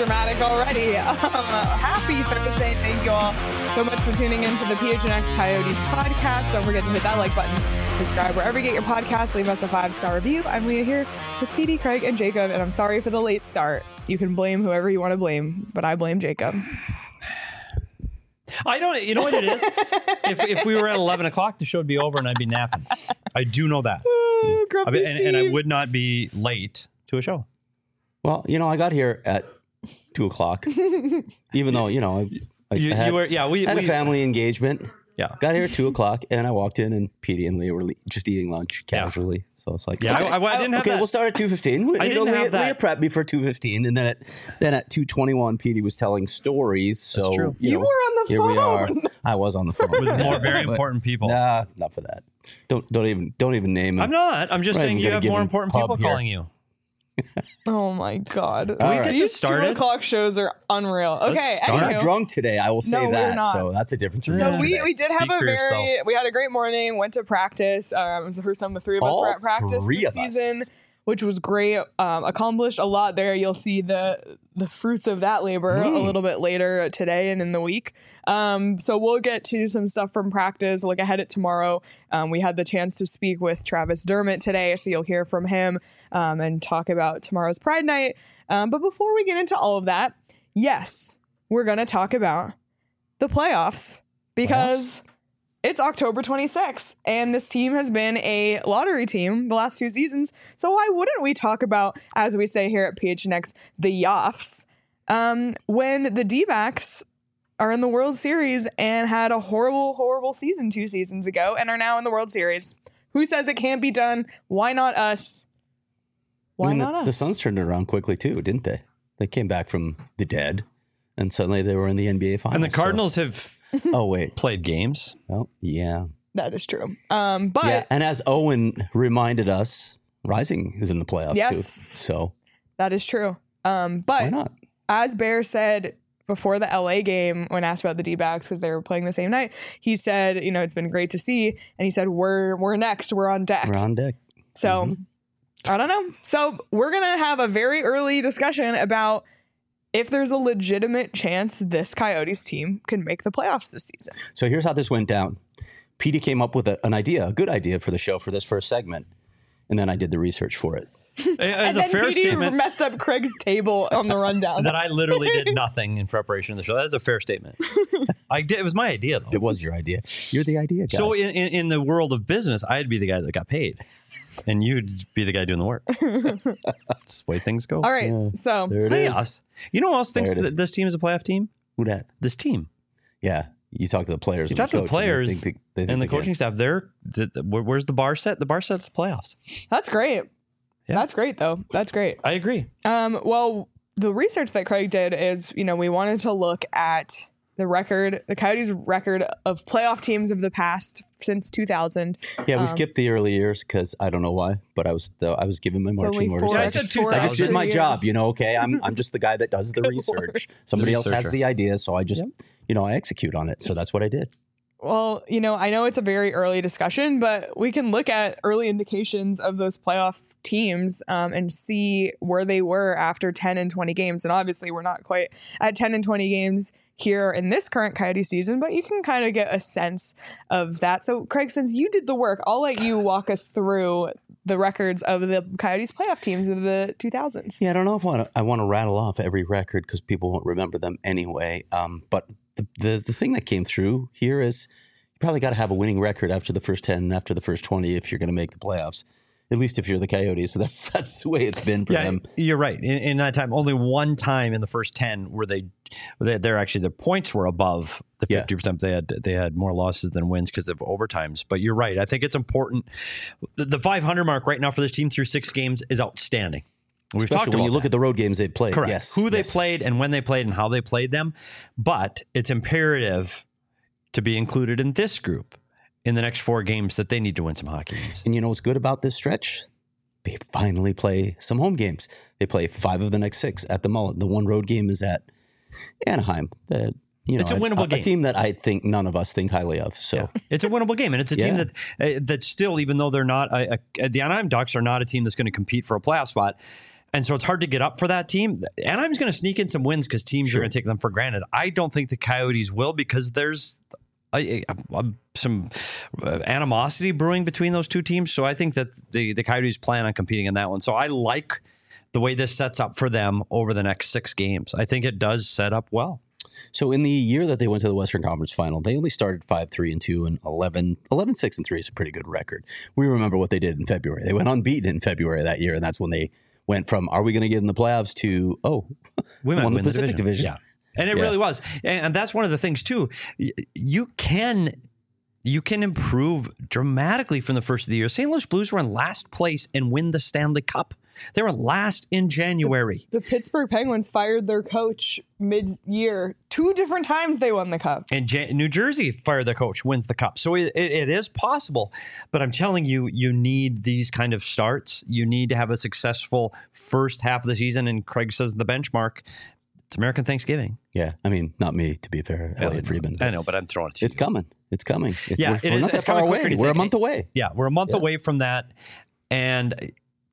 dramatic already. Happy Thursday. Thank you all so much for tuning into the PHNX Coyotes podcast. Don't forget to hit that like button, subscribe wherever you get your podcast, leave us a 5-star review. I'm Leah here with PD, Craig, and Jacob, and I'm sorry for the late start. You can blame whoever you want to blame, but I blame Jacob. I don't, you know what it is? If we were at 11 o'clock, the show would be over and I'd be napping. I do know that. And I would not be late to a show. Well, I got here at 2 o'clock, even though, I had a family engagement. Yeah. Got here at 2 o'clock and I walked in and Petey and Leah were just eating lunch casually. Yeah. So it's like, I didn't have that. We'll start at 2:15. Leah prepped me for 2:15. And then at 2:21, Petey was telling stories. So that's true. You were on the phone. We are. I was on the phone. With more very important people. Nah, not for that. Don't even name it. I'm not. I'm just saying you have more important people calling you. Oh my God. These 2 o'clock shows are unreal. Okay. I'm not drunk today. I will say that. So that's a difference. So we did have we had a great morning, went to practice. It was the first time the three of us were at practice this season, which was great. Accomplished a lot there. You'll see the fruits of that labor a little bit later today and in the week. So we'll get to some stuff from practice, look ahead at tomorrow. We had the chance to speak with Travis Dermott today, so you'll hear from him and talk about tomorrow's Pride Night. But before we get into all of that, yes, we're going to talk about the playoffs because it's October 26th, and this team has been a lottery team the last 2 seasons. So why wouldn't we talk about, as we say here at PHNX, the Yoffs, when the D-backs are in the World Series and had a horrible, horrible season 2 seasons ago and are now in the World Series? Who says it can't be done? Why not us? Why not us? The Suns turned it around quickly, too, didn't they? They came back from the dead, and suddenly they were in the NBA Finals. And the Cardinals have... played games. Oh, yeah. That is true. But yeah, and as Owen reminded us, Rising is in the playoffs too. So that is true. But why not? As Bear said before the LA game, when asked about the D-backs because they were playing the same night, he said, it's been great to see, and he said we're next, we're on deck. We're on deck. So I don't know. So we're gonna have a very early discussion about if there's a legitimate chance this Coyotes team can make the playoffs this season. So here's how this went down. Petey came up with a good idea for the show for this first segment, and then I did the research for it. And then Petey messed up Craig's table on the rundown. That I literally did nothing in preparation of the show. That is a fair statement. It was my idea, though. It was your idea. You're the idea guy. So in the world of business, I'd be the guy that got paid, and you'd be the guy doing the work. That's the way things go. All right, so there it playoffs. You know who else thinks that this team is a playoff team? Who dat? This team. Yeah, you talk to the players. You talk to the players and the coaching staff. Where's the bar set? The bar set's the playoffs. That's great. Yeah. That's great, though. That's great. I agree. Well, the research that Craig did is, we wanted to look at the Coyotes' record of playoff teams of the past since 2000. Yeah, we skipped the early years because I don't know why, but I was giving my marching orders. I said 2000. I just did my job, okay? I'm just the guy that does the research. Somebody else has the idea, so I just, I execute on it. So that's what I did. Well, I know it's a very early discussion, but we can look at early indications of those playoff teams and see where they were after 10 and 20 games. And obviously, we're not quite at 10 and 20 games here in this current Coyote season, but you can kind of get a sense of that. So, Craig, since you did the work, I'll let you walk us through the records of the Coyotes playoff teams of the 2000s. Yeah, I don't know if I want to rattle off every record because people won't remember them anyway. But the thing that came through here is you probably got to have a winning record after the first 10 and after the first 20 if you're going to make the playoffs. At least if you're the Coyotes. So that's the way it's been for them. You're right. In that time, only one time in the first 10 were they're actually, their points were above the 50%. They had more losses than wins because of overtimes. But you're right. I think it's important. The 500 mark right now for this team through 6 games is outstanding. We've talked about when you look at the road games they've played. Correct. Yes. Who they played and when they played and how they played them. But it's imperative to be included in this group in the next 4 games that they need to win some hockey games. And you know what's good about this stretch? They finally play some home games. They play 5 of the next 6 at the Mullet. The one road game is at Anaheim. It's a winnable game. A team that I think none of us think highly of. So it's a winnable game, and it's a team that still, even though they're not, the Anaheim Ducks are not a team that's going to compete for a playoff spot. And so it's hard to get up for that team. Anaheim's going to sneak in some wins because teams are going to take them for granted. I don't think the Coyotes will because there's some animosity brewing between those two teams. So I think that the Coyotes plan on competing in that one. So I like the way this sets up for them over the next 6 games. I think it does set up well. So in the year that they went to the Western Conference Final, they only started 5-3-2 and 11-6-3 is a pretty good record. We remember what they did in February. They went unbeaten in February that year, and that's when they went from, are we going to get in the playoffs to, we won the Pacific Division. Yeah. And it really was. And that's one of the things, too. You can improve dramatically from the first of the year. St. Louis Blues were in last place and win the Stanley Cup. They were last in January. The Pittsburgh Penguins fired their coach mid-year. 2 different times they won the Cup. And New Jersey fired their coach, wins the Cup. So it is possible. But I'm telling you, you need these kind of starts. You need to have a successful first half of the season. And Craig says the benchmark, it's American Thanksgiving. Yeah. I mean, not me, to be fair, Elliot Friedman. I know, but I'm throwing it to you. It's coming. It's coming. We're not that far away. We're a month away. Yeah, we're a month away from that. And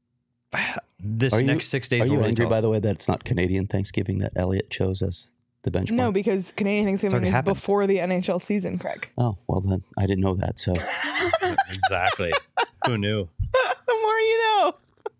this next 6 days. Are you angry, by the way, that it's not Canadian Thanksgiving that Elliot chose as the benchmark? No, because Canadian Thanksgiving is before the NHL season, Craig. Oh, well then, I didn't know that, so. Exactly. Who knew? The more you know.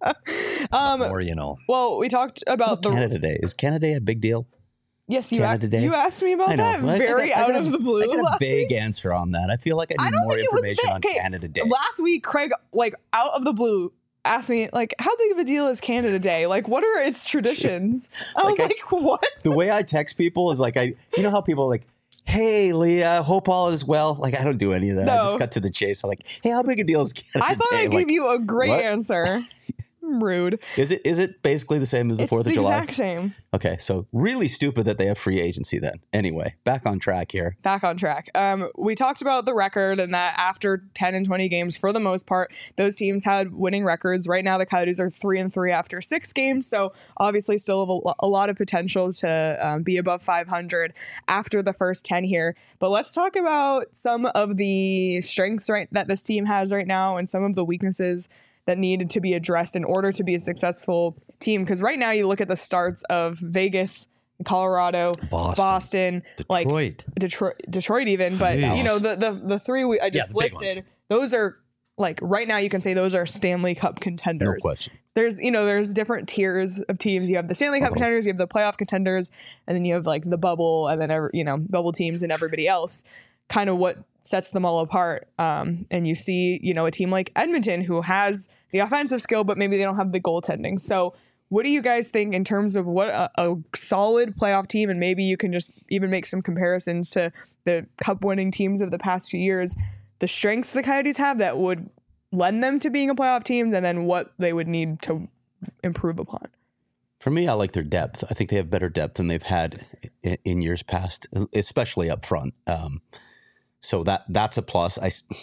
The more you know. Well, we talked about Canada Day. Is Canada Day a big deal? Yes, you asked me about that very out of the blue. I got a vague answer on that. I feel like I need more information on Canada Day. Last week, Craig, out of the blue, asked me, how big of a deal is Canada Day? What are its traditions? I was like, what? The way I text people is you know how people are like, hey, Leah, hope all is well. I don't do any of that. No. I just cut to the chase. I'm like, hey, how big a deal is Canada Day? I thought I gave you a great answer. Rude. Is it basically the same as the 4th of July? It's the exact same. Okay, so really stupid that they have free agency then. Anyway, back on track here. Back on track. We talked about the record and that after 10 and 20 games, for the most part, those teams had winning records. Right now, the Coyotes are 3-3 after 6 games, so obviously still have a lot of potential to be above 500 after the first 10 here. But let's talk about some of the strengths that this team has right now and some of the weaknesses that needed to be addressed in order to be a successful team. Because right now you look at the starts of Vegas, Colorado, Boston, Detroit even. But the 3 I just listed, those are right now you can say those are Stanley Cup contenders. No question. There's different tiers of teams. You have the Stanley Cup contenders, you have the playoff contenders, and then you have the bubble, and then bubble teams and everybody else. Kind of what sets them all apart. And you see, a team like Edmonton who has the offensive skill, but maybe they don't have the goaltending. So what do you guys think in terms of what a solid playoff team, and maybe you can just even make some comparisons to the cup winning teams of the past few years, the strengths the Coyotes have that would lend them to being a playoff team, and then what they would need to improve upon? For me, I like their depth. I think they have better depth than they've had in years past, especially up front. So that's a plus.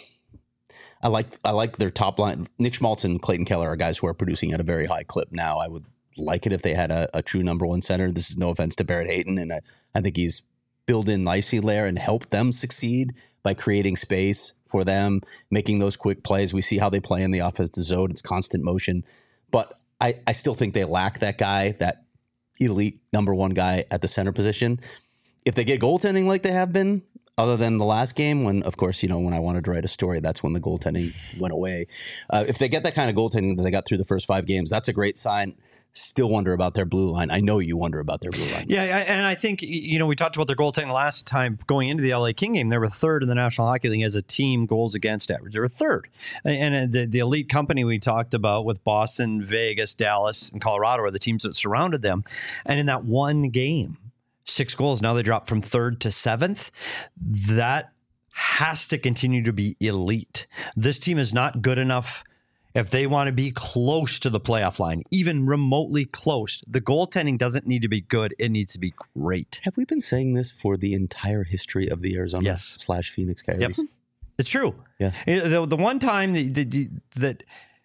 I like their top line. Nick Schmaltz and Clayton Keller are guys who are producing at a very high clip now. I would like it if they had a true number 1 center. This is no offense to Barrett Hayton, and I think he's built in nicely there and helped them succeed by creating space for them, making those quick plays. We see how they play in the offensive zone. It's constant motion. But I still think they lack that guy, that elite number 1 guy at the center position. If they get goaltending like they have been, other than the last game when, of course, when I wanted to write a story, that's when the goaltending went away. If they get that kind of goaltending that they got through the first 5 games, that's a great sign. Still wonder about their blue line. I know you wonder about their blue line. Yeah, and I think, we talked about their goaltending last time going into the LA King game. They were 3rd in the National Hockey League as a team goals against average. They were 3rd. And the elite company we talked about with Boston, Vegas, Dallas, and Colorado are the teams that surrounded them. And in that one game, 6 goals. Now they dropped from 3rd to 7th. That has to continue to be elite. This team is not good enough if they want to be close to the playoff line, even remotely close. The goaltending doesn't need to be good. It needs to be great. Have we been saying this for the entire history of the Arizona / Phoenix Coyotes? Yep. It's true. Yeah. The one time that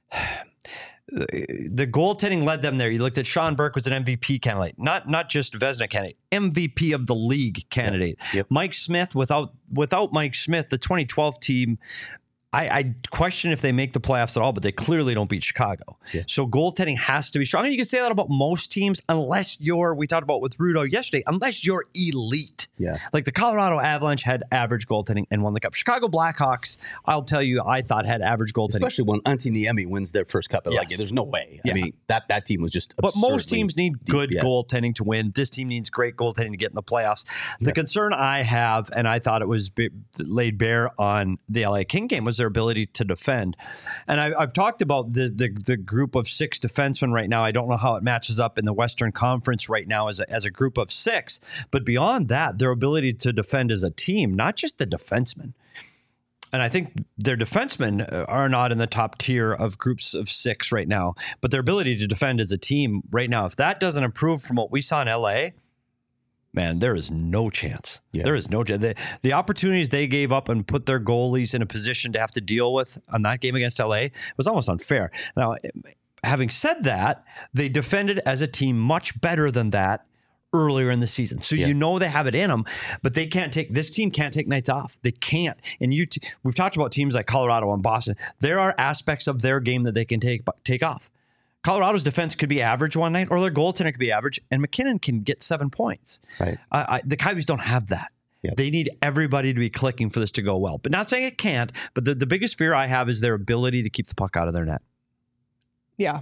the goaltending led them there. You looked at Sean Burke was an MVP candidate, not just Vezina candidate, MVP of the league candidate. Yep. Mike Smith, without Mike Smith, the 2012 team I question if they make the playoffs at all, but they clearly don't beat Chicago. Yeah. So goaltending has to be strong. And you can say that about most teams, unless we talked about with Rudo yesterday, unless you're elite. Yeah. Like the Colorado Avalanche had average goaltending and won the Cup. Chicago Blackhawks, I'll tell you, I thought had average goaltending. Especially when Antti Niemi wins their first Cup. Yes. Like, there's no way. Yeah. I mean, that team was just absurdly But most teams need good goaltending to win. This team needs great goaltending to get in the playoffs. The concern I have, and I thought it was laid bare on the LA King game, was their ability to defend. And I've talked about the group of 6 defensemen right now. I don't know how it matches up in the Western Conference right now as a group of 6. But beyond that, their ability to defend as a team, not just the defensemen. And I think their defensemen are not in the top tier of groups of 6 right now. But their ability to defend as a team right now, if that doesn't improve from what we saw in LA, man, there is no chance. Yeah. There is no chance. The opportunities they gave up and put their goalies in a position to have to deal with on that game against LA was almost unfair. Now, having said that, they defended as a team much better than that earlier in the season. So you know they have it in them, but this team can't take nights off. They can't. And we've talked about teams like Colorado and Boston. There are aspects of their game that they can take off. Colorado's defense could be average one night, or their goaltender could be average, and McKinnon can get 7 points. Right. The Coyotes don't have that. Yep. They need everybody to be clicking for this to go well. But not saying it can't, but the biggest fear I have is their ability to keep the puck out of their net. Yeah.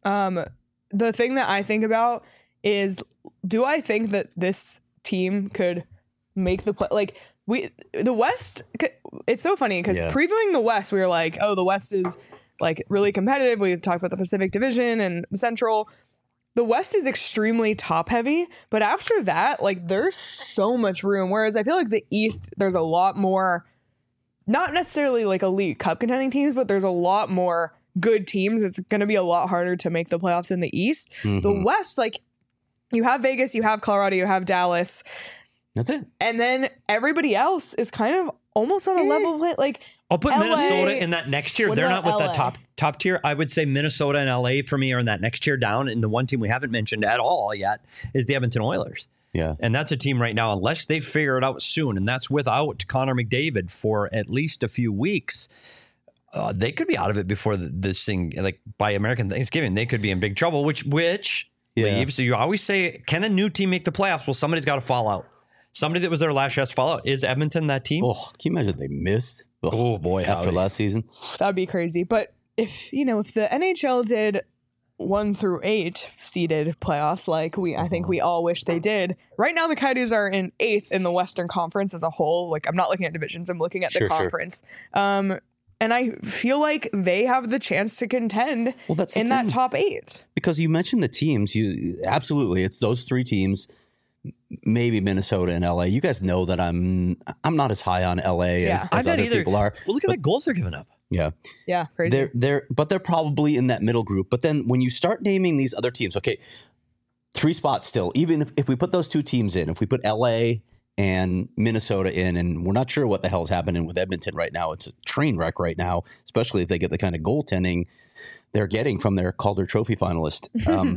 The thing that I think about is, do I think that this team could make the play? Like, the West, it's so funny because previewing the West, we were like, oh, the West is like really competitive. We've talked about the Pacific Division and the Central. The West is extremely top heavy, but after that, like, there's so much room. Whereas I feel like the East, there's a lot more, not necessarily like elite cup contending teams, but there's a lot more good teams. It's going to be a lot harder to make the playoffs in the East. Mm-hmm. The West, like, you have Vegas, you have Colorado, you have Dallas. That's it. And then everybody else is kind of almost on a level play. Like, I'll put LA, Minnesota in that next tier. They're not with that top tier. I would say Minnesota and LA for me are in that next tier down. And the one team we haven't mentioned at all yet is the Edmonton Oilers. Yeah. And that's a team right now, unless they figure it out soon, and that's without Connor McDavid for at least a few weeks, they could be out of it before this thing, like by American Thanksgiving, they could be in big trouble, which leaves. So you always say, can a new team make the playoffs? Well, somebody's got to fall out. Somebody that was their last chance to fall out. Is Edmonton that team? Oh, can you imagine they missed? Oh boy, after last season, that'd be crazy. But if the NHL did 1 through 8 seeded playoffs, like I think we all wish they did. Right now, the Coyotes are in 8th in the Western Conference as a whole. Like, I'm not looking at divisions; I'm looking at the conference. Sure. And I feel like they have the chance to contend in that top 8. Because you mentioned the teams, absolutely, it's those 3 teams. Maybe Minnesota and LA. You guys know that I'm not as high on LA as other people are. Well, look at the goals they're giving up. Yeah, crazy. They're probably in that middle group. But then when you start naming these other teams, okay, 3 spots still. Even if we put those 2 teams in, if we put LA and Minnesota in, and we're not sure what the hell's happening with Edmonton right now. It's a train wreck right now, especially if they get the kind of goaltending they're getting from their Calder Trophy finalist.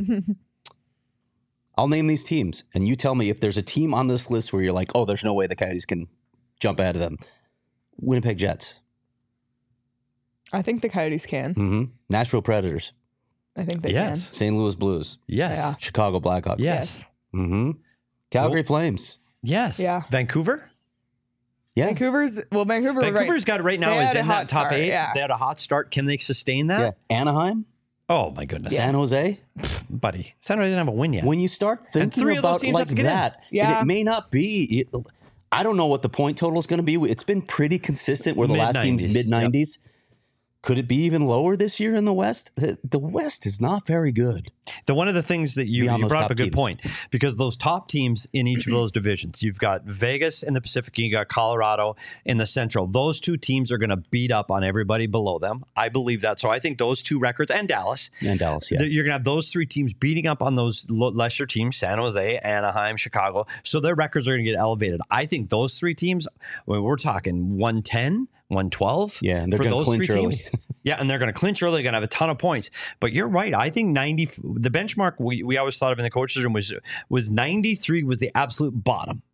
I'll name these teams, and you tell me if there's a team on this list where you're like, oh, there's no way the Coyotes can jump out of them. Winnipeg Jets. I think the Coyotes can. Mm-hmm. Nashville Predators. I think they can. St. Louis Blues. Yes. Yeah. Chicago Blackhawks. Yes. Mm-hmm. Calgary Flames. Yes. Yeah. Vancouver? Yeah. Vancouver's got it right now is in that top 8. Yeah. They had a hot start. Can they sustain that? Yeah. Anaheim? Oh, my goodness. San Jose? Buddy, San Jose doesn't have a win yet. When you start thinking about like that, it may not be. I don't know what the point total is going to be. It's been pretty consistent where the last team's mid-90s. Yep. Could it be even lower this year in the West? The West is not very good. One of the things that you brought up a good point, because those top teams in each of those divisions, you've got Vegas in the Pacific, you got Colorado in the Central. Those 2 teams are going to beat up on everybody below them. I believe that. So I think those 2 records, and Dallas. Yeah. You're going to have those 3 teams beating up on those lesser teams, San Jose, Anaheim, Chicago. So their records are going to get elevated. I think those 3 teams, we're talking 110, 112. Yeah, and they're going to clinch early. Yeah, and they're going to clinch early. They're going to have a ton of points. But you're right. I think 90. The benchmark we always thought of in the coaches room was 93 was the absolute bottom.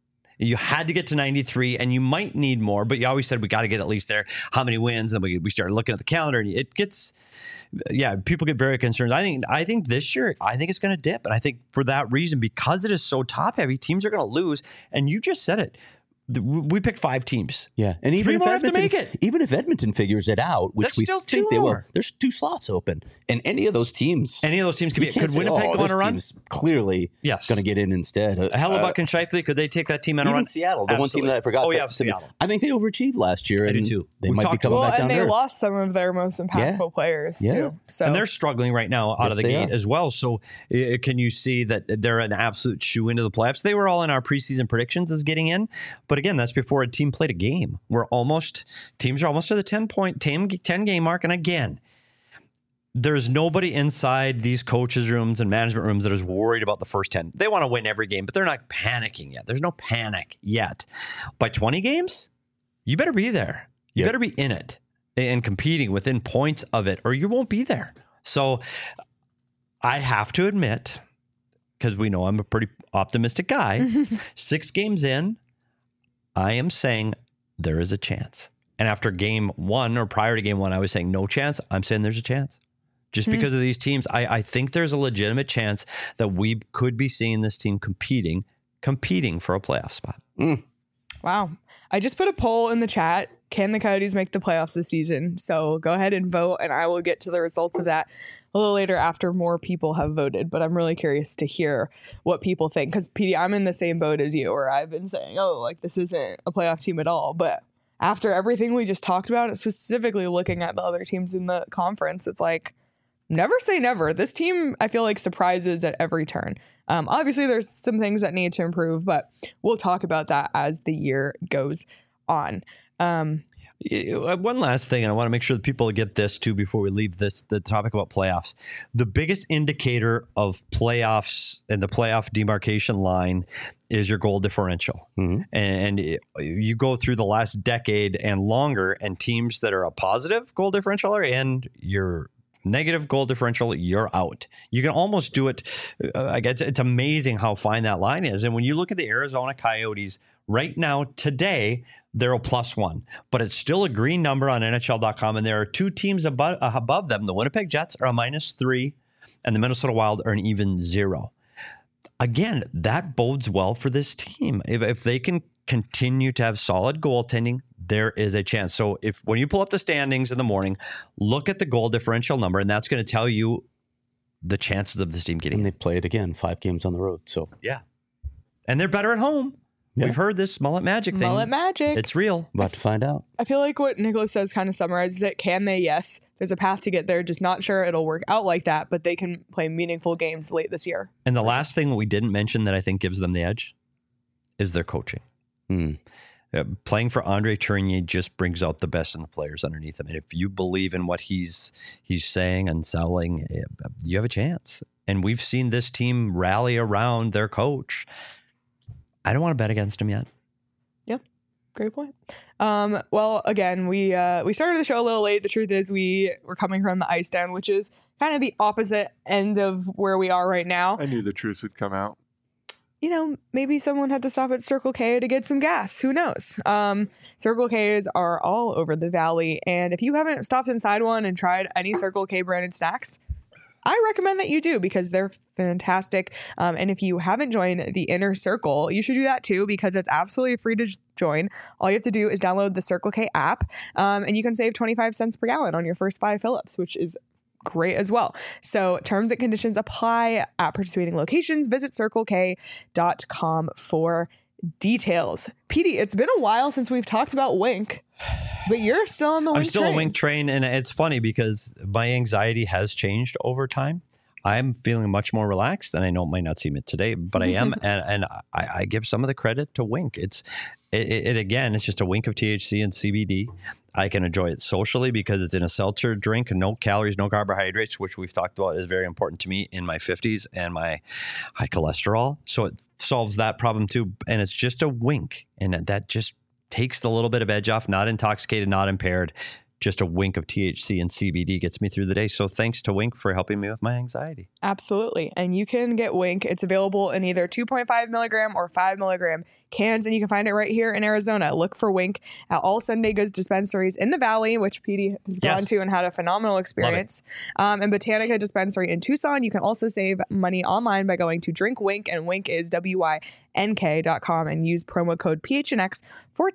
You had to get to 93, and you might need more, but you always said we got to get at least there. How many wins? And we started looking at the calendar, and it gets, people get very concerned. I think this year, I think it's going to dip, and I think for that reason, because it is so top heavy, teams are going to lose. And you just said it. We picked 5 teams. Yeah, and even if Edmonton figures it out, which we think they will, there's 2 slots open, and any of those teams could Winnipeg go on a run? Clearly, going to get in instead. Hellebuyck and Scheifele, could they take that team on a run? Even Seattle, the one team that I forgot. Seattle. I think they overachieved last year. I do too. They might be coming back down and there. they lost some of their most impactful players too. So. And they're struggling right now out of the gate as well. So can you see that they're an absolute shoe into the playoffs? They were all in our preseason predictions as getting in, but again, that's before a team played a game. Teams are almost to the 10 game mark. And again, there's nobody inside these coaches' rooms and management rooms that is worried about the first 10. They want to win every game, but they're not panicking yet. There's no panic yet. By 20 games, you better be there. You better be in it and competing within points of it, or you won't be there. So I have to admit, because we know I'm a pretty optimistic guy, 6 games in, I am saying there is a chance. And after game 1 or prior to game 1, I was saying no chance. I'm saying there's a chance. Just because of these teams, I think there's a legitimate chance that we could be seeing this team competing for a playoff spot. Wow. I just put a poll in the chat. Can the Coyotes make the playoffs this season? So go ahead and vote, and I will get to the results of that a little later after more people have voted. But I'm really curious to hear what people think, because PD, I'm in the same boat as you, where I've been saying, this isn't a playoff team at all. But after everything we just talked about, specifically looking at the other teams in the conference, it's like, never say never. This team, I feel like, surprises at every turn. Obviously, there's some things that need to improve, but we'll talk about that as the year goes on. One last thing, and I want to make sure that people get this too before we leave the topic about playoffs. The biggest indicator of playoffs and the playoff demarcation line is your goal differential. And you go through the last decade and longer, and teams that are a positive goal differential and your negative goal differential, you're out. You can almost do it. It's amazing how fine that line is. And when you look at the Arizona Coyotes right now, today, they're a +1, but it's still a green number on NHL.com. And there are 2 teams above them. The Winnipeg Jets are a -3, and the Minnesota Wild are an even 0. Again, that bodes well for this team. If they can continue to have solid goaltending, there is a chance. So when you pull up the standings in the morning, look at the goal differential number, and that's going to tell you the chances of this team getting. And they played again 5 games on the road. So and they're better at home. Yeah. We've heard this mullet magic thing. Mullet magic. It's real. About to find out. I feel like what Nicholas says kind of summarizes it. Can they? Yes. There's a path to get there. Just not sure it'll work out like that, but they can play meaningful games late this year. And the last thing we didn't mention that I think gives them the edge is their coaching. Playing for Andre Tourigny just brings out the best in the players underneath him. And if you believe in what he's saying and selling, you have a chance. And we've seen this team rally around their coach. I don't want to bet against him yet. Yeah, great point. Well, again, we started the show a little late. The truth is we're coming from the ice down, which is kind of the opposite end of where we are right now. I knew the truth would come out. Maybe someone had to stop at Circle K to get some gas. Who knows? Circle Ks are all over the valley. And if you haven't stopped inside one and tried any Circle K branded snacks, I recommend that you do, because they're fantastic. And if you haven't joined the Inner Circle, you should do that too, because it's absolutely free to join. All you have to do is download the Circle K app, and you can save 25 cents per gallon on your first 5 fill-ups, which is great as well. So terms and conditions apply at participating locations. Visit CircleK.com for details. PD, it's been a while since we've talked about Wink, but you're still on the Wink train. I'm still a Wink train, and it's funny because my anxiety has changed over time. I'm feeling much more relaxed, and I know it might not seem it today, but I am, and I give some of the credit to Wink. It again, it's just a wink of THC and CBD. I can enjoy it socially because it's in a seltzer drink, no calories, no carbohydrates, which we've talked about is very important to me in my 50s and my high cholesterol. So it solves that problem too. And it's just a wink. And that just takes the little bit of edge off, not intoxicated, not impaired. just a wink of THC and CBD gets me through the day. So thanks to Wink for helping me with my anxiety. Absolutely. And you can get Wink. It's available in either 2.5 milligram or 5 milligram cans, and you can find it right here in Arizona. Look for Wink at all Sunday Goods dispensaries in the Valley, which Petey has gone to and had a phenomenal experience. And Botanica dispensary in Tucson. You can also save money online by going to Drink Wink, and Wink is WYNK.com, and use promo code PHNX for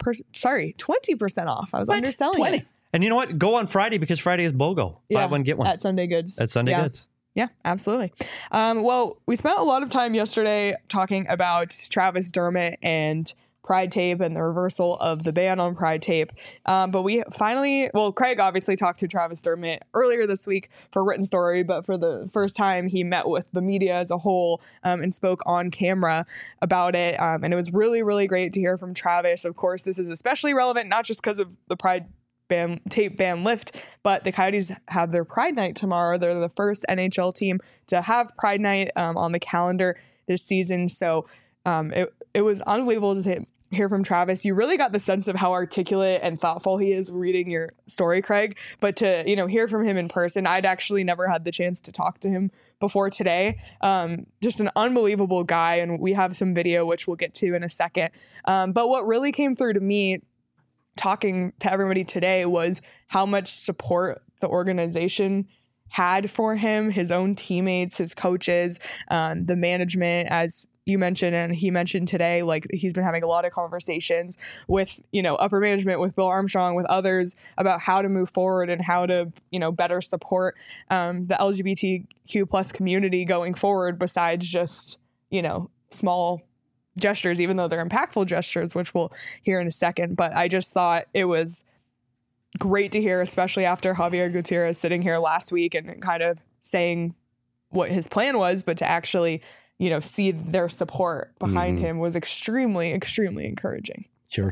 20% off. I was underselling it. And you know what? Go on Friday, because Friday is BOGO. Buy one, get one. At Sunday Goods. At Sunday Goods. Yeah, absolutely. Well, we spent a lot of time yesterday talking about Travis Dermott and Pride Tape and the reversal of the ban on Pride Tape. But we finally, Craig obviously talked to Travis Dermott earlier this week for Written Story, but for the first time he met with the media as a whole and spoke on camera about it. And it was really, really great to hear from Travis. Of course, this is especially relevant, not just because of the Pride tape ban lift, but the Coyotes have their Pride Night tomorrow. They're the first NHL team to have Pride Night on the calendar this season. So it was unbelievable to hear from Travis. You really got the sense of how articulate and thoughtful he is reading your story, Craig. But to hear from him in person, I'd actually never had the chance to talk to him before today. Just an unbelievable guy, and we have some video which we'll get to in a second. But what really came through to me talking to everybody today was how much support the organization had for him, his own teammates, his coaches, the management, as you mentioned, and he mentioned today, like he's been having a lot of conversations with, upper management, with Bill Armstrong, with others about how to move forward and how to, better support the LGBTQ plus community going forward, besides just, small gestures, even though they're impactful gestures, which we'll hear in a second. But I just thought it was great to hear, especially after Javier Gutierrez sitting here last week and kind of saying what his plan was, but to actually, see their support behind him was extremely, extremely encouraging. Sure.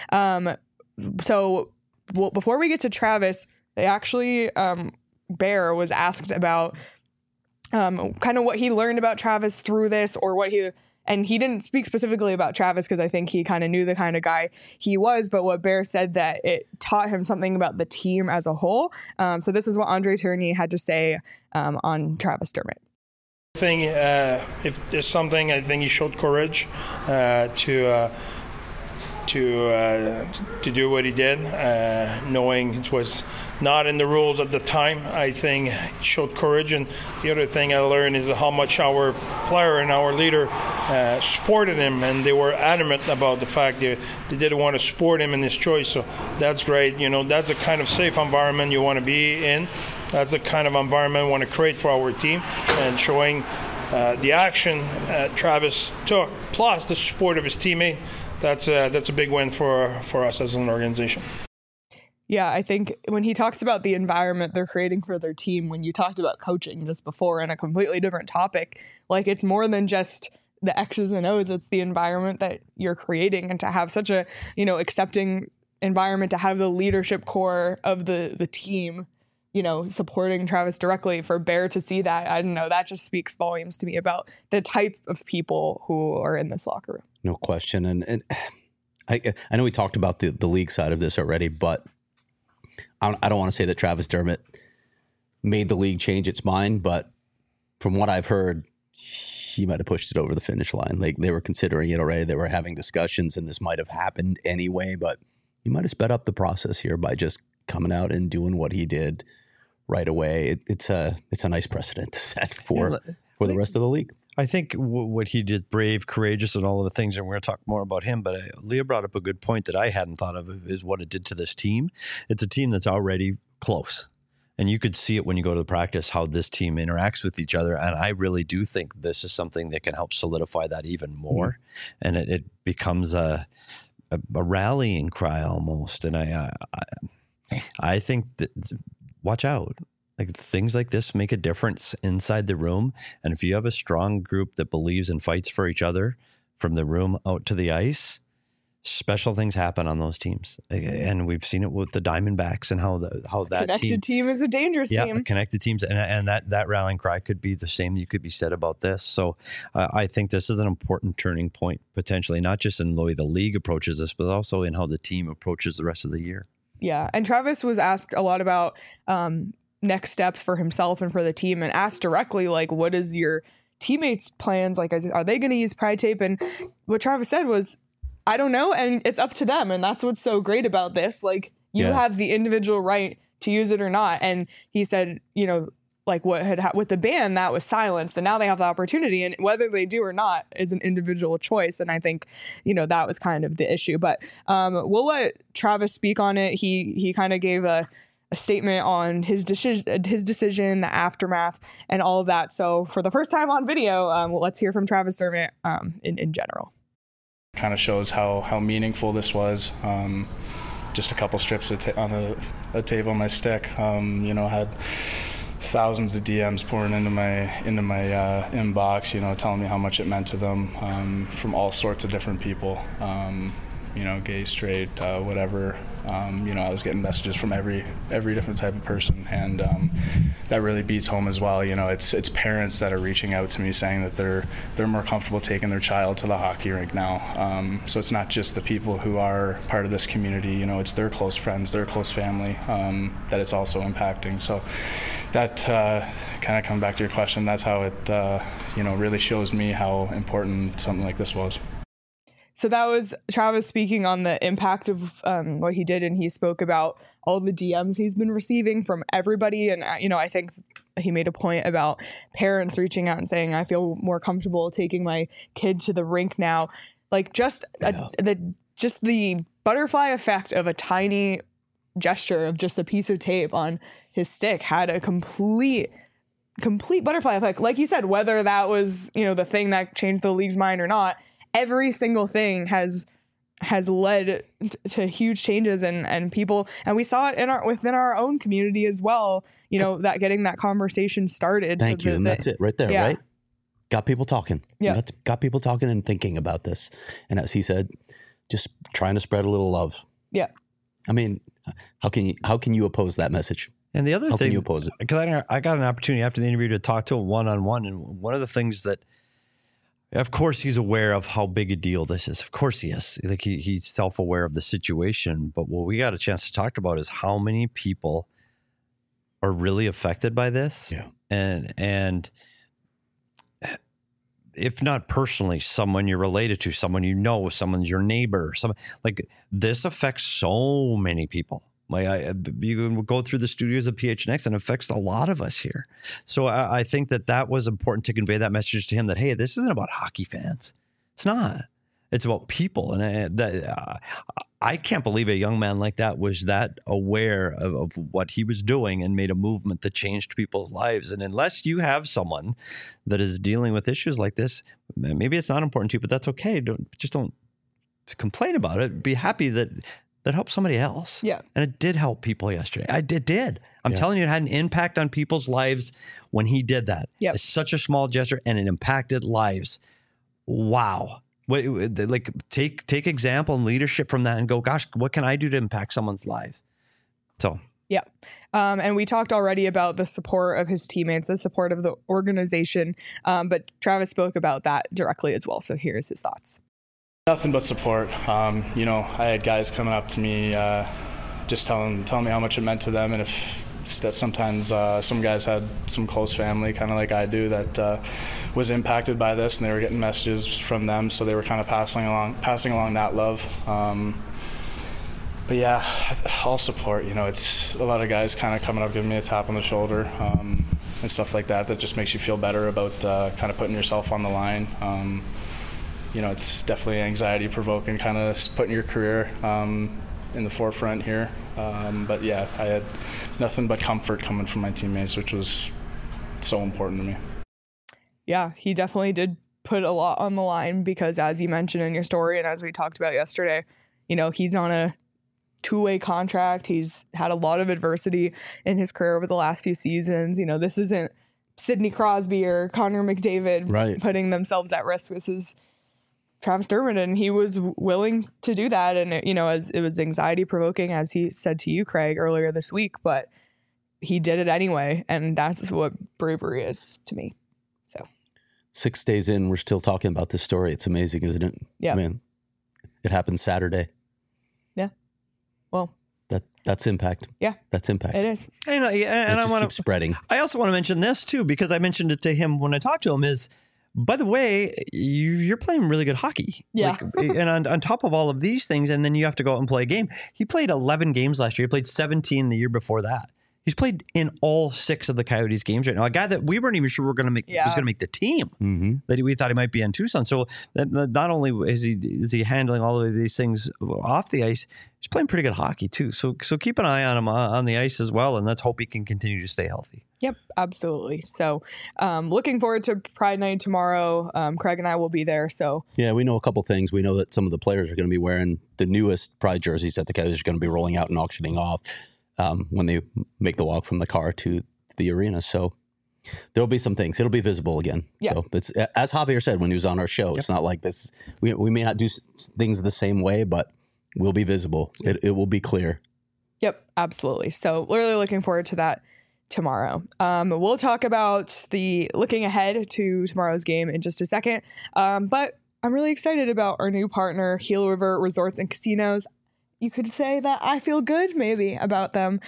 So before we get to Travis, they actually, Bear was asked about kind of what he learned about Travis through this, or and he didn't speak specifically about Travis because I think he kind of knew the kind of guy he was, but what Bear said that it taught him something about the team as a whole. So this is what Andre Tourigny had to say on Travis Dermott. I think if there's something, I think he showed courage to do what he did, knowing it was not in the rules at the time. I think he showed courage. And the other thing I learned is how much our player and our leader supported him, and they were adamant about the fact that they didn't want to support him in his choice. So that's great. That's the kind of safe environment you want to be in. That's the kind of environment we want to create for our team, and showing the action Travis took, plus the support of his teammate. That's a big win for us as an organization. Yeah, I think when he talks about the environment they're creating for their team, when you talked about coaching just before in a completely different topic, like it's more than just the X's and O's, it's the environment that you're creating, and to have such a, accepting environment, to have the leadership core of the team, supporting Travis directly, for Bear to see that, I don't know, that just speaks volumes to me about the type of people who are in this locker room. No question. And I know we talked about the league side of this already, but I don't want to say that Travis Dermott made the league change its mind, but from what I've heard, he might have pushed it over the finish line. Like, they were considering it already. They were having discussions, and this might have happened anyway, but he might have sped up the process here by just coming out and doing what he did right away. It's a nice precedent to set for the rest of the league. I think what he did, brave, courageous, and all of the things, and we're going to talk more about him, but Leah brought up a good point that I hadn't thought of, is what it did to this team. It's a team that's already close. And you could see it when you go to the practice, how this team interacts with each other. And I really do think this is something that can help solidify that even more. And it becomes a rallying cry almost. And I think that, watch out. Like, things like this make a difference inside the room. And if you have a strong group that believes and fights for each other from the room out to the ice, special things happen on those teams. And we've seen it with the Diamondbacks and how that connected team is a dangerous team. Yeah, connected teams. And that rallying cry could be the same you could be said about this. So I think this is an important turning point, potentially, not just in the way the league approaches this, but also in how the team approaches the rest of the year. Yeah. And Travis was asked a lot about next steps for himself and for the team, and asked directly, like, what is your teammates' plans? Like, are they going to use Pride Tape? And what Travis said was, I don't know. And it's up to them. And that's what's so great about this. Like, you have the individual right to use it or not. And he said, you know, like what had with the ban, that was silenced, and now they have the opportunity, and whether they do or not is an individual choice. And I think, you know, that was kind of the issue. But we'll let Travis speak on it. He kind of gave a statement on his decision, the aftermath, and all of that. So for the first time on video, let's hear from Travis Dermott in general. Kind of shows how meaningful this was. Just a couple strips on a tape on my stick. You know, had thousands of DMs pouring into my inbox, you know, telling me how much it meant to them, from all sorts of different people, you know, gay, straight, whatever. You know, I was getting messages from every different type of person, and that really beats home as well. You know, it's parents that are reaching out to me saying that they're more comfortable taking their child to the hockey rink now. So it's not just the people who are part of this community. You know, it's their close friends, their close family that it's also impacting. So that kind of coming back to your question, that's how it you know, really shows me how important something like this was. So that was Travis speaking on the impact of what he did, and he spoke about all the DMs he's been receiving from everybody. And, you know, I think he made a point about parents reaching out and saying, I feel more comfortable taking my kid to the rink now. Like, just the butterfly effect of a tiny gesture of just a piece of tape on his stick had a complete butterfly effect. Like you said, whether that was, you know, the thing that changed the league's mind or not, every single thing has led to huge changes, and people, and we saw it within our own community as well, you know, that getting that conversation started. Thank you. And that's it right there, right? Got people talking. Yeah. Got people talking and thinking about this. And as he said, just trying to spread a little love. Yeah. I mean, how can you oppose that message? And the other thing, how can you oppose it? Because I got an opportunity after the interview to talk to him one-on-one, and one of the things that, of course, he's aware of how big a deal this is. Of course he is. Like he's self-aware of the situation. But what we got a chance to talk about is how many people are really affected by this. Yeah. And if not personally, someone you're related to, someone you know, someone's your neighbor, like this affects so many people. Like you can go through the studios of PHNX, and it affects a lot of us here. So I think that was important to convey that message to him that, hey, this isn't about hockey fans. It's not. It's about people. And I can't believe a young man like that was that aware of what he was doing and made a movement that changed people's lives. And unless you have someone that is dealing with issues like this, maybe it's not important to you, but that's okay. Don't complain about it. Be happy that helped somebody else. Yeah. And it did help people yesterday. It did. I'm telling you, it had an impact on people's lives when he did that. Yep. It's such a small gesture, and it impacted lives. Wow. Like take example and leadership from that and go, gosh, what can I do to impact someone's life? So. Yeah. And we talked already about the support of his teammates, the support of the organization. But Travis spoke about that directly as well. So here's his thoughts. Nothing but support. You know, I had guys coming up to me, just telling me how much it meant to them, and that sometimes some guys had some close family, kind of like I do, that was impacted by this, and they were getting messages from them, so they were kind of passing along that love. But yeah, all support. You know, it's a lot of guys kind of coming up, giving me a tap on the shoulder, and stuff like that. That just makes you feel better about kind of putting yourself on the line. You know, it's definitely anxiety provoking, kind of putting your career in the forefront here. But yeah, I had nothing but comfort coming from my teammates, which was so important to me. Yeah, he definitely did put a lot on the line because, as you mentioned in your story and as we talked about yesterday, you know, he's on a two-way contract. He's had a lot of adversity in his career over the last few seasons. You know, this isn't Sidney Crosby or Connor McDavid putting themselves at risk. This is Travis Dermott, and he was willing to do that. And, it, you know, it was anxiety provoking, as he said to you, Craig, earlier this week, but he did it anyway. And that's what bravery is to me. So 6 days in, we're still talking about this story. It's amazing, isn't it? Yeah. I mean, it happened Saturday. Yeah. Well, That's impact. Yeah, that's impact. It is. And I want to keep spreading. I also want to mention this too, because I mentioned it to him when I talked to him. Is, by the way, you're playing really good hockey. Yeah. And on top of all of these things, and then you have to go out and play a game. He played 11 games last year. He played 17 the year before that. He's played in all 6 of the Coyotes games right now. A guy that we weren't even sure was going to make the team, that we thought he might be in Tucson. So not only is he handling all of these things off the ice, he's playing pretty good hockey too. So keep an eye on him on the ice as well, and let's hope he can continue to stay healthy. Yep, absolutely. So looking forward to Pride Night tomorrow. Craig and I will be there. So yeah, we know a couple things. We know that some of the players are going to be wearing the newest Pride jerseys that the Coyotes are going to be rolling out and auctioning off when they make the walk from the car to the arena. So there'll be some things. It'll be visible again. Yep. So it's, as Javier said when he was on our show, it's not like this. We may not do things the same way, but we'll be visible. It will be clear. Yep, absolutely. So really looking forward to that tomorrow. We'll talk about the looking ahead to tomorrow's game in just a second. But I'm really excited about our new partner, Gila River Resorts and Casinos. You could say that I feel good maybe about them.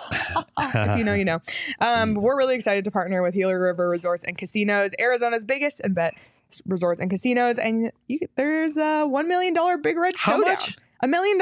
If you know, you know. We're really excited to partner with Gila River Resorts and Casinos, Arizona's biggest and best resorts and casinos. And there's a $1 million Big Red Showdown. How much? $1 million.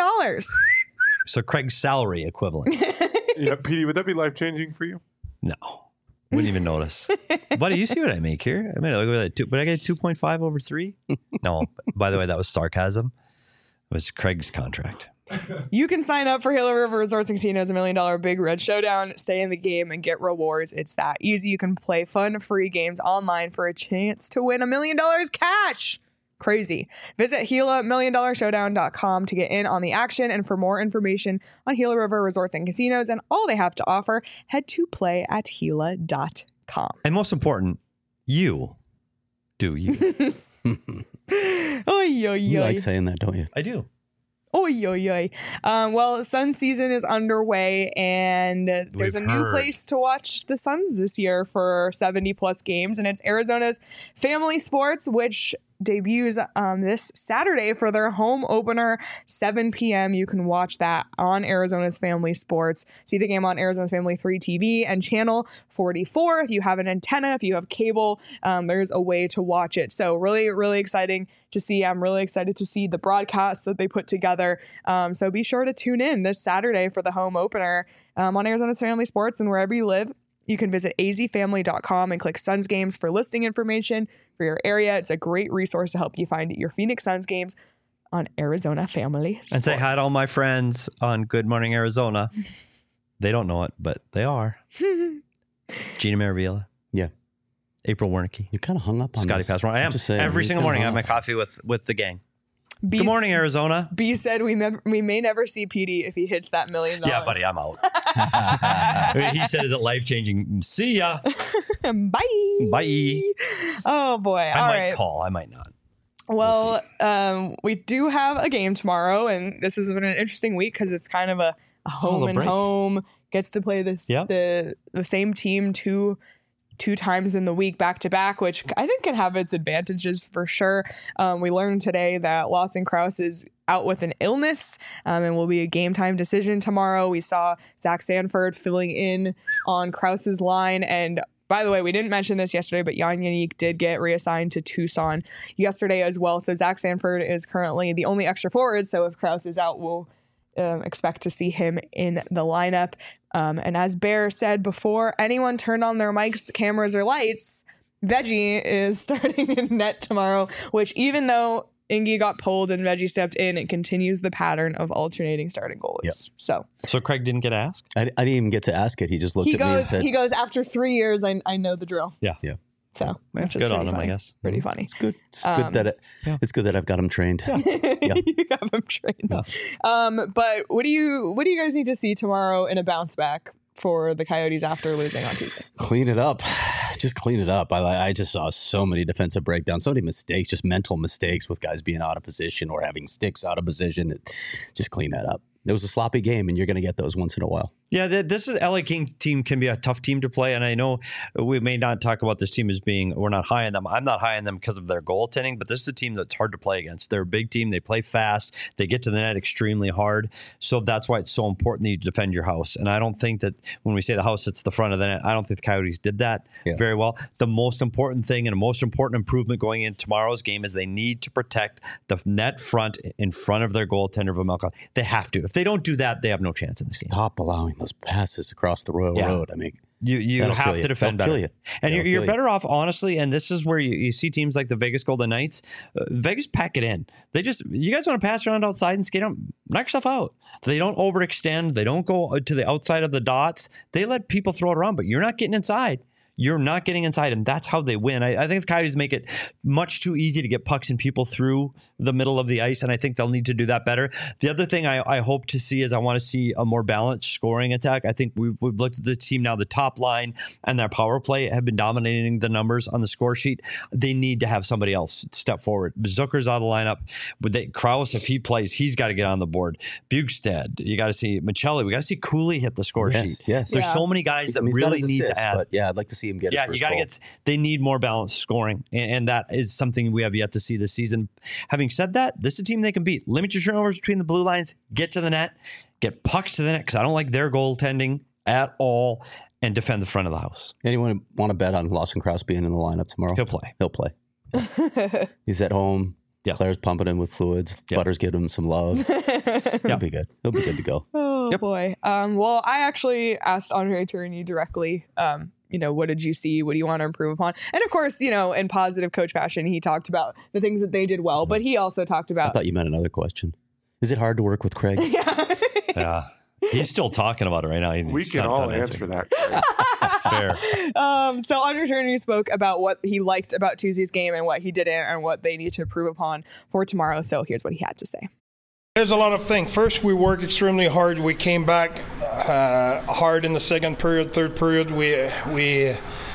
So Craig's salary equivalent. Yeah, Petey, would that be life-changing for you? No. Wouldn't even notice. Buddy, you see what I make here? I mean, look at that. But I get 2.5 over 3? No. By the way, that was sarcasm. It was Craig's contract. You can sign up for Gila River Resorts and Casinos, $1 million Big Red Showdown. Stay in the game and get rewards. It's that easy. You can play fun, free games online for a chance to win $1 million cash. Crazy. Visit GilaMillionDollarShowdown.com to get in on the action and for more information on Gila River Resorts and Casinos and all they have to offer, head to play@Gila.com. And most important, you do you. You like saying that, don't you? I do. Well, Sun season is underway, and there's a new place to watch the Suns this year for 70 plus games, and it's Arizona's Family Sports, which debuts this Saturday for their home opener, 7 p.m. You can watch that on Arizona's Family Sports. See the game on Arizona's Family 3 TV and channel 44. If you have an antenna, if you have cable, there's a way to watch it. So really, really exciting to see. I'm really excited to see the broadcast that they put together. So be sure to tune in this Saturday for the home opener on Arizona's Family Sports, and wherever you live, you can visit azfamily.com and click Suns Games for listing information for your area. It's a great resource to help you find your Phoenix Suns games on Arizona Family Sports. And say hi to all my friends on Good Morning Arizona. They don't know it, but they are. Gina Maravilla. Yeah. April Wernicke. You kind of hung up on Scotty Passmore. I am. Every single morning I have my coffee with the gang. Good morning, Arizona. B said we may never see Petey if he hits that $1 million. Yeah, buddy, I'm out. He said, is it life-changing? See ya. Bye. Bye. Oh, boy. I might call. I might not. Well, we do have a game tomorrow, and this has been an interesting week because it's kind of a home and home. Gets to play this the same team two times in the week back to back, which I think can have its advantages for sure. We learned today that Lawson Crouse is out with an illness and will be a game time decision tomorrow. We saw Zach Sanford filling in on Krause's line. And by the way, we didn't mention this yesterday, but Jan Jeník did get reassigned to Tucson yesterday as well. So Zach Sanford is currently the only extra forward. So if Crouse is out, we'll expect to see him in the lineup. And as Bear said before, anyone turned on their mics, cameras, or lights, Veggie is starting in net tomorrow, which even though Ingy got pulled and Veggie stepped in, it continues the pattern of alternating starting goalies. Yep. So Craig didn't get asked? I didn't even get to ask it. He just looked at me and said... He goes, after 3 years, I know the drill. Yeah. So it's good on him, I guess. Pretty funny. It's good. It's good that I've got him trained. Yeah. You got him trained. Yeah. But what do you guys need to see tomorrow in a bounce back for the Coyotes after losing on Tuesday? Clean it up. Just clean it up. I just saw so many defensive breakdowns, so many mistakes, just mental mistakes with guys being out of position or having sticks out of position. Just clean that up. It was a sloppy game, and you're going to get those once in a while. Yeah, this is LA King team can be a tough team to play, and I know we may not talk about this team as being we're not high on them. I'm not high on them because of their goaltending, but this is a team that's hard to play against. They're a big team. They play fast. They get to the net extremely hard. So that's why it's so important that you defend your house. And I don't think that when we say the house, it's the front of the net. I don't think the Coyotes did that very well. The most important thing and the most important improvement going into tomorrow's game is they need to protect the net front in front of their goaltender, Vejmelka. They have to. If they don't do that, they have no chance in this game. Stop allowing those passes across the road. I mean, you have to defend better. You. And you're better off, honestly, and this is where you see teams like the Vegas Golden Knights. Vegas pack it in. You guys want to pass around outside and skate on, knock yourself out. They don't overextend. They don't go to the outside of the dots. They let people throw it around, but you're not getting inside. You're not getting inside, and that's how they win. I think the Coyotes make it much too easy to get pucks and people through the middle of the ice, and I think they'll need to do that better. The other thing I hope to see is I want to see a more balanced scoring attack. I think we've looked at the team now, the top line and their power play have been dominating the numbers on the score sheet. They need to have somebody else step forward. Zucker's out of the lineup. Krause, if he plays, he's got to get on the board. Bugstad, you got to see Michelli. We got to see Cooley hit the score sheet. Yes. There's so many guys that really need to add. But I'd like to see him get his first goal. They need more balanced scoring, and that is something we have yet to see this season. Having said that, this is a team they can beat. Limit your turnovers between the blue lines, get to the net, get pucks to the net, because I don't like their goaltending at all, and defend the front of the house. Anyone want to bet on Lawson Crouse being in the lineup tomorrow? He'll play. He's at home. Yeah. Claire's pumping him with fluids. Yep. Butter's giving him some love. He'll be good. He'll be good to go. Oh, boy. Well, I actually asked Andre Tourigny directly, what did you see? What do you want to improve upon? And of course, in positive coach fashion, he talked about the things that they did well, but he also talked about... I thought you meant another question. Is it hard to work with Craig? Yeah. He's still talking about it right now. We can all answer that. Fair. So Andre Tourigny spoke about what he liked about Tuesday's game and what he didn't and what they need to improve upon for tomorrow. So here's what he had to say. There's a lot of things. First, we worked extremely hard. We came back hard in the second period, third period. We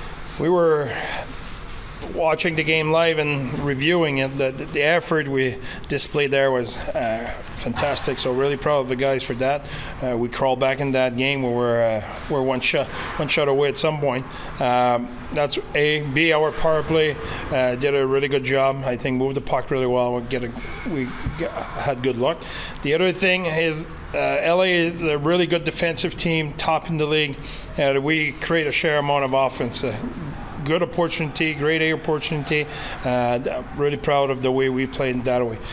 were watching the game live and reviewing it. The effort we displayed there was fantastic. So really proud of the guys for that. We crawled back in that game. We're one shot away at some point. That's A. B. Our power play did a really good job. I think moved the puck really well. We had good luck. The other thing is LA is a really good defensive team, top in the league. We create a share amount of offense. Good opportunity, great opportunity. Really proud of the way we played that way.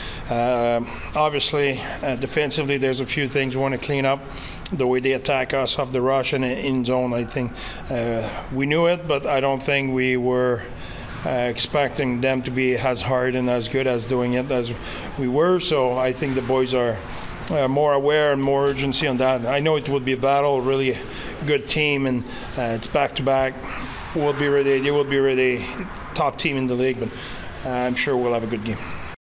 Obviously, defensively, there's a few things we want to clean up. The way they attack us off the rush and in zone, I think we knew it, but I don't think we were expecting them to be as hard and as good as doing it as we were. So I think the boys are more aware and more urgency on that. I know it would be a battle, really good team, and it's back-to-back. We'll be ready. They will be ready. Top team in the league, but I'm sure we'll have a good game.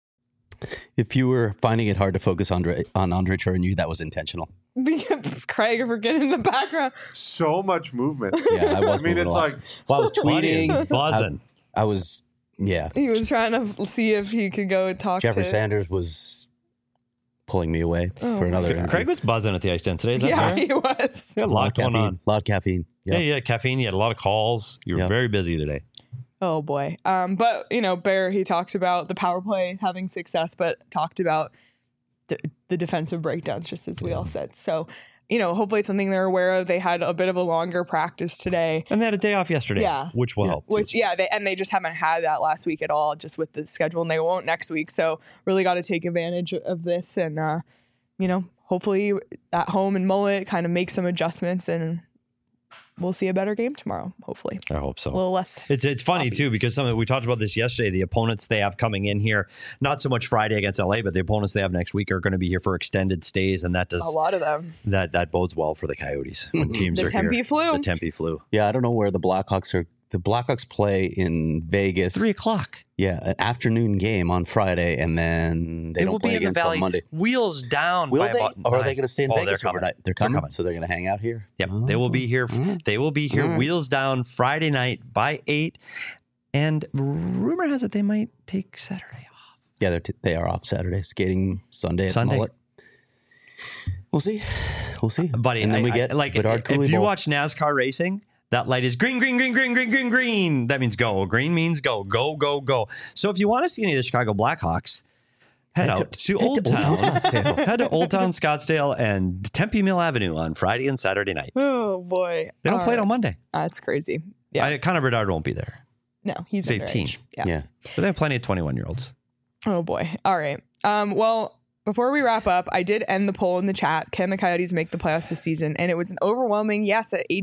If you were finding it hard to focus on Andre Tourigny, that was intentional. Craig, we're getting in the background. So much movement. Yeah, I was. It's like I was tweeting, buzzing. I was. Yeah. He was trying to see if he could go and talk. Jeffrey Sanders was pulling me away for another interview. Craig was buzzing at the ice den today. Is that right? He was. He had a lot going on. A lot of caffeine. Yep. Yeah, you had caffeine. You had a lot of calls. You were very busy today. Oh, boy. But, Bear, he talked about the power play having success, but talked about the defensive breakdowns, just as we all said. So, hopefully it's something they're aware of. They had a bit of a longer practice today. And they had a day off yesterday, which will help. They just haven't had that last week at all, just with the schedule, and they won't next week. So really got to take advantage of this and, hopefully at home in Mullet kind of make some adjustments and we'll see a better game tomorrow, hopefully. I hope so. A little less. It's funny, too, because we talked about this yesterday. The opponents they have coming in here, not so much Friday against LA, but the opponents they have next week are going to be here for extended stays, and that does... A lot of them. That bodes well for the Coyotes when teams are here. The Tempe flu. Yeah, I don't know where the Blackhawks are. The Blackhawks play in Vegas. 3:00. Yeah, an afternoon game on Friday, and then they don't play again until Monday. Wheels down. Will they? Or are they going to stay in Vegas overnight? They're coming. So they're going to hang out here? Yep. They will be here. They will be here. Wheels down Friday night by 8. And rumor has it they might take Saturday off. Yeah, they are off Saturday. Skating Sunday at the Mullet. We'll see. We'll see, buddy. And then we get like if you watch NASCAR racing, that light is green, green, green, green, green, green, green. That means go. Green means go, go, go, go. So if you want to see any of the Chicago Blackhawks, head out to Old Town. Head to Old Town Scottsdale and Tempe Mill Avenue on Friday and Saturday night. Oh boy, they don't play it on Monday. That's crazy. Yeah, Connor Bedard won't be there. No, he's 18. Yeah, but they have plenty of 21-year-olds. Oh boy. All right. Well, before we wrap up, I did end the poll in the chat. Can the Coyotes make the playoffs this season? And it was an overwhelming yes at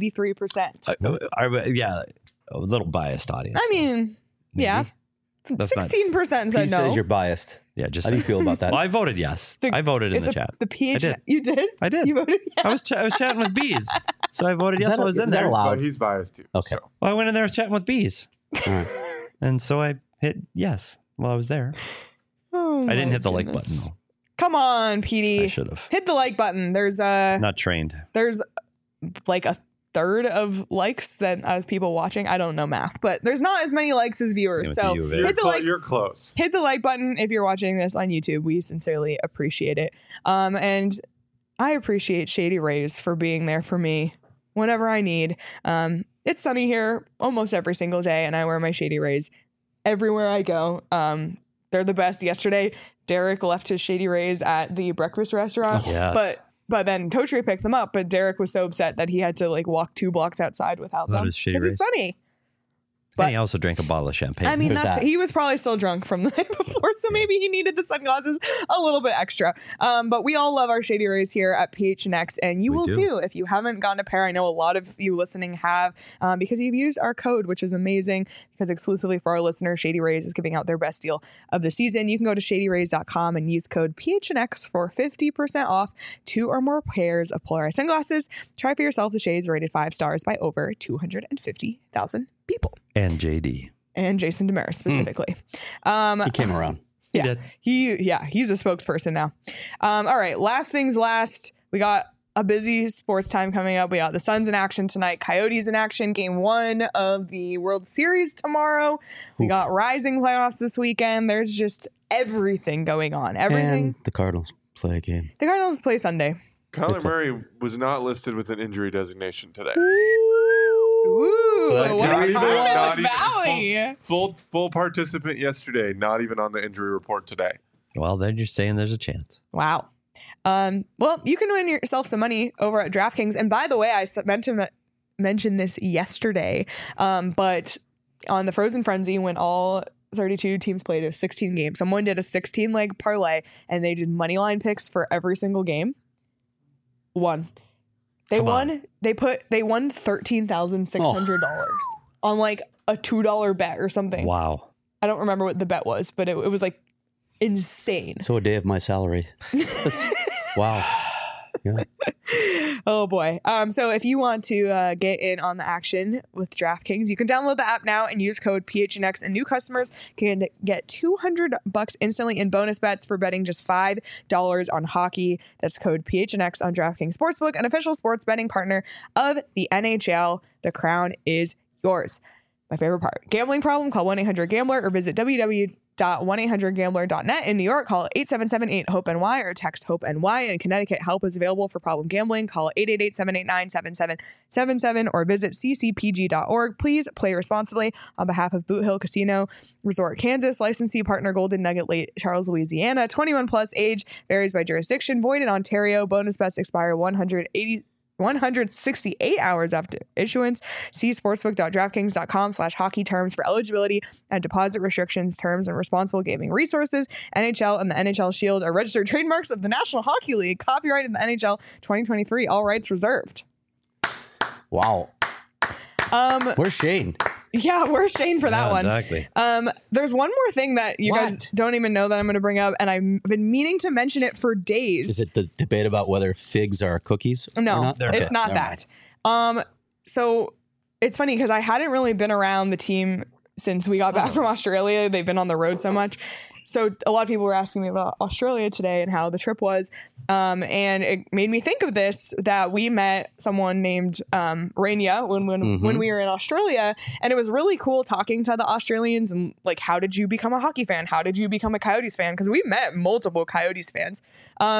83%. Yeah, a little biased audience. I mean, maybe. Yeah. 16% said no. He says you're biased. Yeah, just how do you feel about that? Well, I voted yes. I voted in the chat. The PH. You did? I did. You voted yes. I was chatting with bees, so I voted yes. I was in there. But he's biased too. Okay. So. Well, I went in there chatting with bees, right. and so I hit yes while I was there. Oh, I didn't hit the like button though. Come on, Petey. I should have hit the like button. There's not trained. There's like a third of likes than as people watching. I don't know math, but there's not as many likes as viewers. So hit the like. You're close. Hit the like button if you're watching this on YouTube. We sincerely appreciate it. And I appreciate Shady Rays for being there for me whenever I need. It's sunny here almost every single day, and I wear my Shady Rays everywhere I go. They're the best. Yesterday, Derek left his Shady Rays at the breakfast restaurant, but then Totri picked them up. But Derek was so upset that he had to like walk 2 blocks outside without them because it's sunny. But and he also drank a bottle of champagne. I mean, he was probably still drunk from the night before, so maybe he needed the sunglasses a little bit extra. But we all love our Shady Rays here at PHNX, and you will too. If you haven't gotten a pair, I know a lot of you listening have, because you've used our code, which is amazing, because exclusively for our listeners, Shady Rays is giving out their best deal of the season. You can go to shadyrays.com and use code PHNX for 50% off 2 or more pairs of polarized sunglasses. Try for yourself the shades rated 5 stars by over 250,000 people. And JD. And Jason Demers specifically. He came around. Yeah. He's a spokesperson now. All right. Last things last. We got a busy sports time coming up. We got the Suns in action tonight. Coyotes in action. Game 1 of the World Series tomorrow. We got Rising playoffs this weekend. There's just everything going on. Everything. And the Cardinals play a game. The Cardinals play Sunday. Kyler Murray was not listed with an injury designation today. Ooh, so what Valley. Full participant yesterday, not even on the injury report today. Well, they're just saying there's a chance. Wow. Well, you can win yourself some money over at DraftKings. And by the way, I mentioned this yesterday, but on the Frozen Frenzy, when all 32 teams played a 16 game, someone did a 16-leg parlay, and they did money line picks for every single game. They won $13,600 on like a $2 bet or something. Wow. I don't remember what the bet was, but it was like insane. So a day of my salary. Wow. Yeah. Oh boy. So if you want to get in on the action with DraftKings, you can download the app now and use code PHNX, and new customers can get $200 instantly in bonus bets for betting just $5 on hockey. That's code PHNX on DraftKings Sportsbook, an official sports betting partner of the NHL. The crown is yours. My favorite part. Gambling problem? Call 1-800-GAMBLER or visit www.1800gambler.net. In New York, call 877-8-HOPE-NY or text HOPE-NY. In Connecticut, help is available for problem gambling. Call 888-789-7777 or visit ccpg.org. Please play responsibly. On behalf of Boot Hill Casino Resort, Kansas, licensee partner Golden Nugget Lake Charles, Louisiana. 21 plus, age varies by jurisdiction. Void in Ontario. Bonus bets expire 168 hours after issuance. See sportsbook.draftkings.com/hockey terms for eligibility and deposit restrictions, terms, and responsible gaming resources. NHL and the NHL Shield are registered trademarks of the National Hockey League. Copyrighted in the NHL 2023. All rights reserved. Wow. Where's Shane? Yeah, where's Shane for that one? Exactly. There's one more thing that you guys don't even know that I'm going to bring up, and I've been meaning to mention it for days. Is it the debate about whether figs are cookies? No, or not? It's not that. So it's funny because I hadn't really been around the team since we got back from Australia. They've been on the road so much. So a lot of people were asking me about Australia today and how the trip was. And it made me think of this, that we met someone named Rania when we were in Australia. And it was really cool talking to the Australians and like, how did you become a hockey fan? How did you become a Coyotes fan? Because we met multiple Coyotes fans. And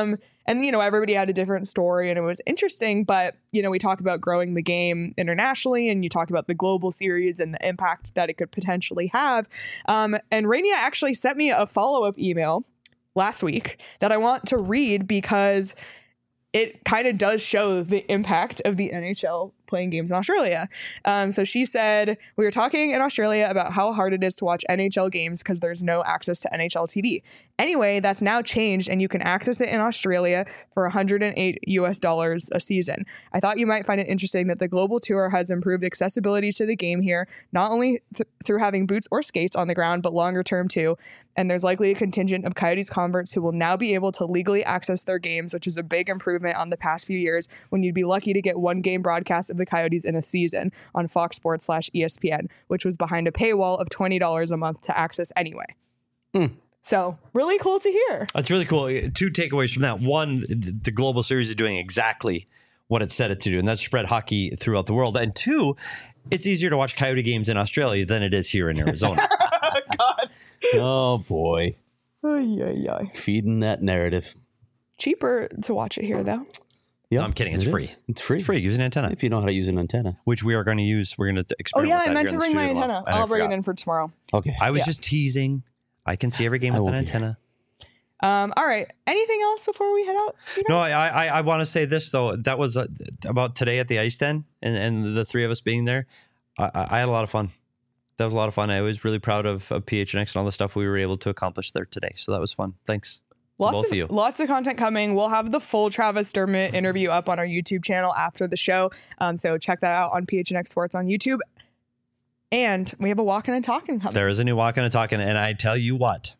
And, everybody had a different story and it was interesting. But, we talk about growing the game internationally and you talk about the global series and the impact that it could potentially have. And Rania actually sent me a follow-up email last week that I want to read because it kind of does show the impact of the NHL playing games in Australia. So she said, we were talking in Australia about how hard it is to watch NHL games because there's no access to NHL TV. Anyway, that's now changed and you can access it in Australia for $108 a season. I thought you might find it interesting that the global tour has improved accessibility to the game here, not only through having boots or skates on the ground, but longer term too. And there's likely a contingent of Coyotes converts who will now be able to legally access their games, which is a big improvement on the past few years when you'd be lucky to get one game broadcast of the Coyotes in a season on Fox Sports /ESPN, which was behind a paywall of $20 a month to access anyway. So really cool to hear. That's really cool. 2 takeaways from that. One, the global series is doing exactly what it said it to do, and that's spread hockey throughout the world. And 2, it's easier to watch Coyote games in Australia than it is here in Arizona. God. Oh, boy. Ay. Feeding that narrative. Cheaper to watch it here, though. Yeah, no, I'm kidding. It's free. It's free. It's free. Use an antenna. If you know how to use an antenna. Which we are going to use. We're going to experiment with that. I meant to bring my antenna. I'll bring it in for tomorrow. Okay. I was just teasing. I can see every game with an antenna. All right. Anything else before we head out? No, I want to say this, though. That was about today at the Ice Den and the 3 of us being there. I had a lot of fun. That was a lot of fun. I was really proud of PHNX and all the stuff we were able to accomplish there today. So that was fun. Thanks. Lots of content coming. We'll have the full Travis Dermott interview up on our YouTube channel after the show. So check that out on PHNX Sports on YouTube. And we have a Walking and Talking coming. There is a new Walking and Talking. And I tell you what,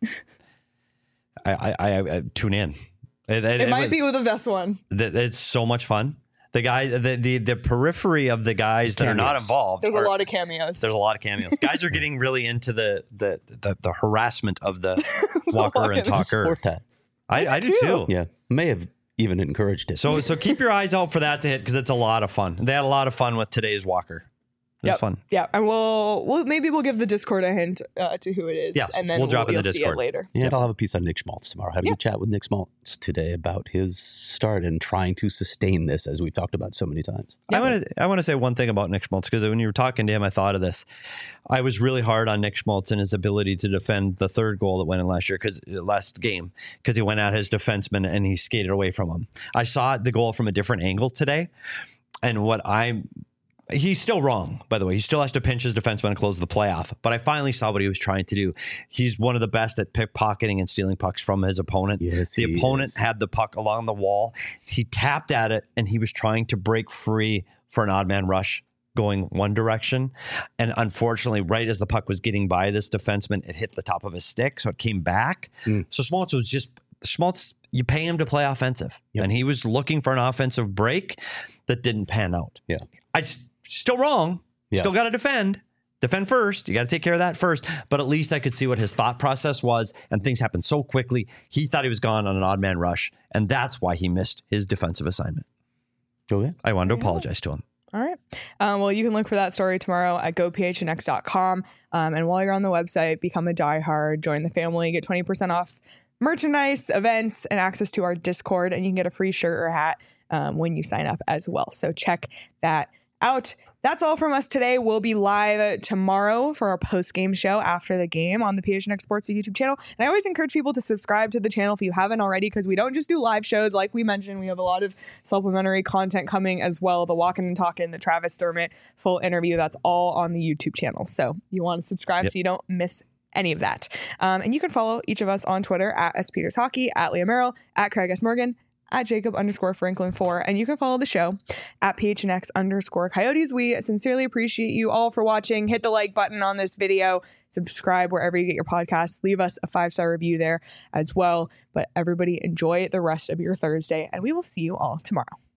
I tune in. It might be with the best one. It's so much fun. The guy, the periphery of the guys that are not involved. There's a lot of cameos. There's a lot of cameos. Guys are getting really into the harassment of the walker and talker. I support that. I do too. Yeah, may have even encouraged it. So keep your eyes out for that to hit because it's a lot of fun. They had a lot of fun with today's walker. It was fun. Yeah, and we'll give the Discord a hint to who it is. Yeah, and then we'll drop in the Discord Discord later. Yeah, I'll have a piece on Nick Schmaltz tomorrow. Had a good chat with Nick Schmaltz today about his start and trying to sustain this, as we've talked about so many times. Yeah. I want to say one thing about Nick Schmaltz because when you were talking to him, I thought of this. I was really hard on Nick Schmaltz and his ability to defend the 3rd goal that went in last game because he went at his defenseman and he skated away from him. I saw the goal from a different angle today, and he's still wrong, by the way. He still has to pinch his defenseman and close the playoff. But I finally saw what he was trying to do. He's one of the best at pickpocketing and stealing pucks from his opponent. Yes, the opponent had the puck along the wall. He tapped at it, and he was trying to break free for an odd man rush going one direction. And unfortunately, right as the puck was getting by this defenseman, it hit the top of his stick, so it came back. So Schmaltz, you pay him to play offensive. Yep. And he was looking for an offensive break that didn't pan out. Yeah. Still wrong. Yeah. Still got to defend. Defend first. You got to take care of that first. But at least I could see what his thought process was. And things happened so quickly. He thought he was gone on an odd man rush. And that's why he missed his defensive assignment. Okay. I wanted to apologize to him. All right. Well, you can look for that story tomorrow at gophnx.com. And while you're on the website, become a diehard, join the family, get 20% off merchandise, events, and access to our Discord. And you can get a free shirt or hat when you sign up as well. So check that out. That's all from us today. We'll be live tomorrow for our post-game show after the game on the PHNX Sports YouTube channel. And I always encourage people to subscribe to the channel if you haven't already, because we don't just do live shows. Like we mentioned, we have a lot of supplementary content coming as well. The Walking and Talking, the Travis Dermott full interview, that's all on the YouTube channel. So you want to subscribe so you don't miss any of that. And you can follow each of us on Twitter at SPetersHockey, at Leah Merrill, at Craig S. Morgan, at Jacob_Franklin4, and you can follow the show at PHNX_Coyotes. We sincerely appreciate you all for watching. Hit the like button on this video, subscribe wherever you get your podcasts, leave us a 5-star review there as well. But everybody enjoy the rest of your Thursday, and we will see you all tomorrow.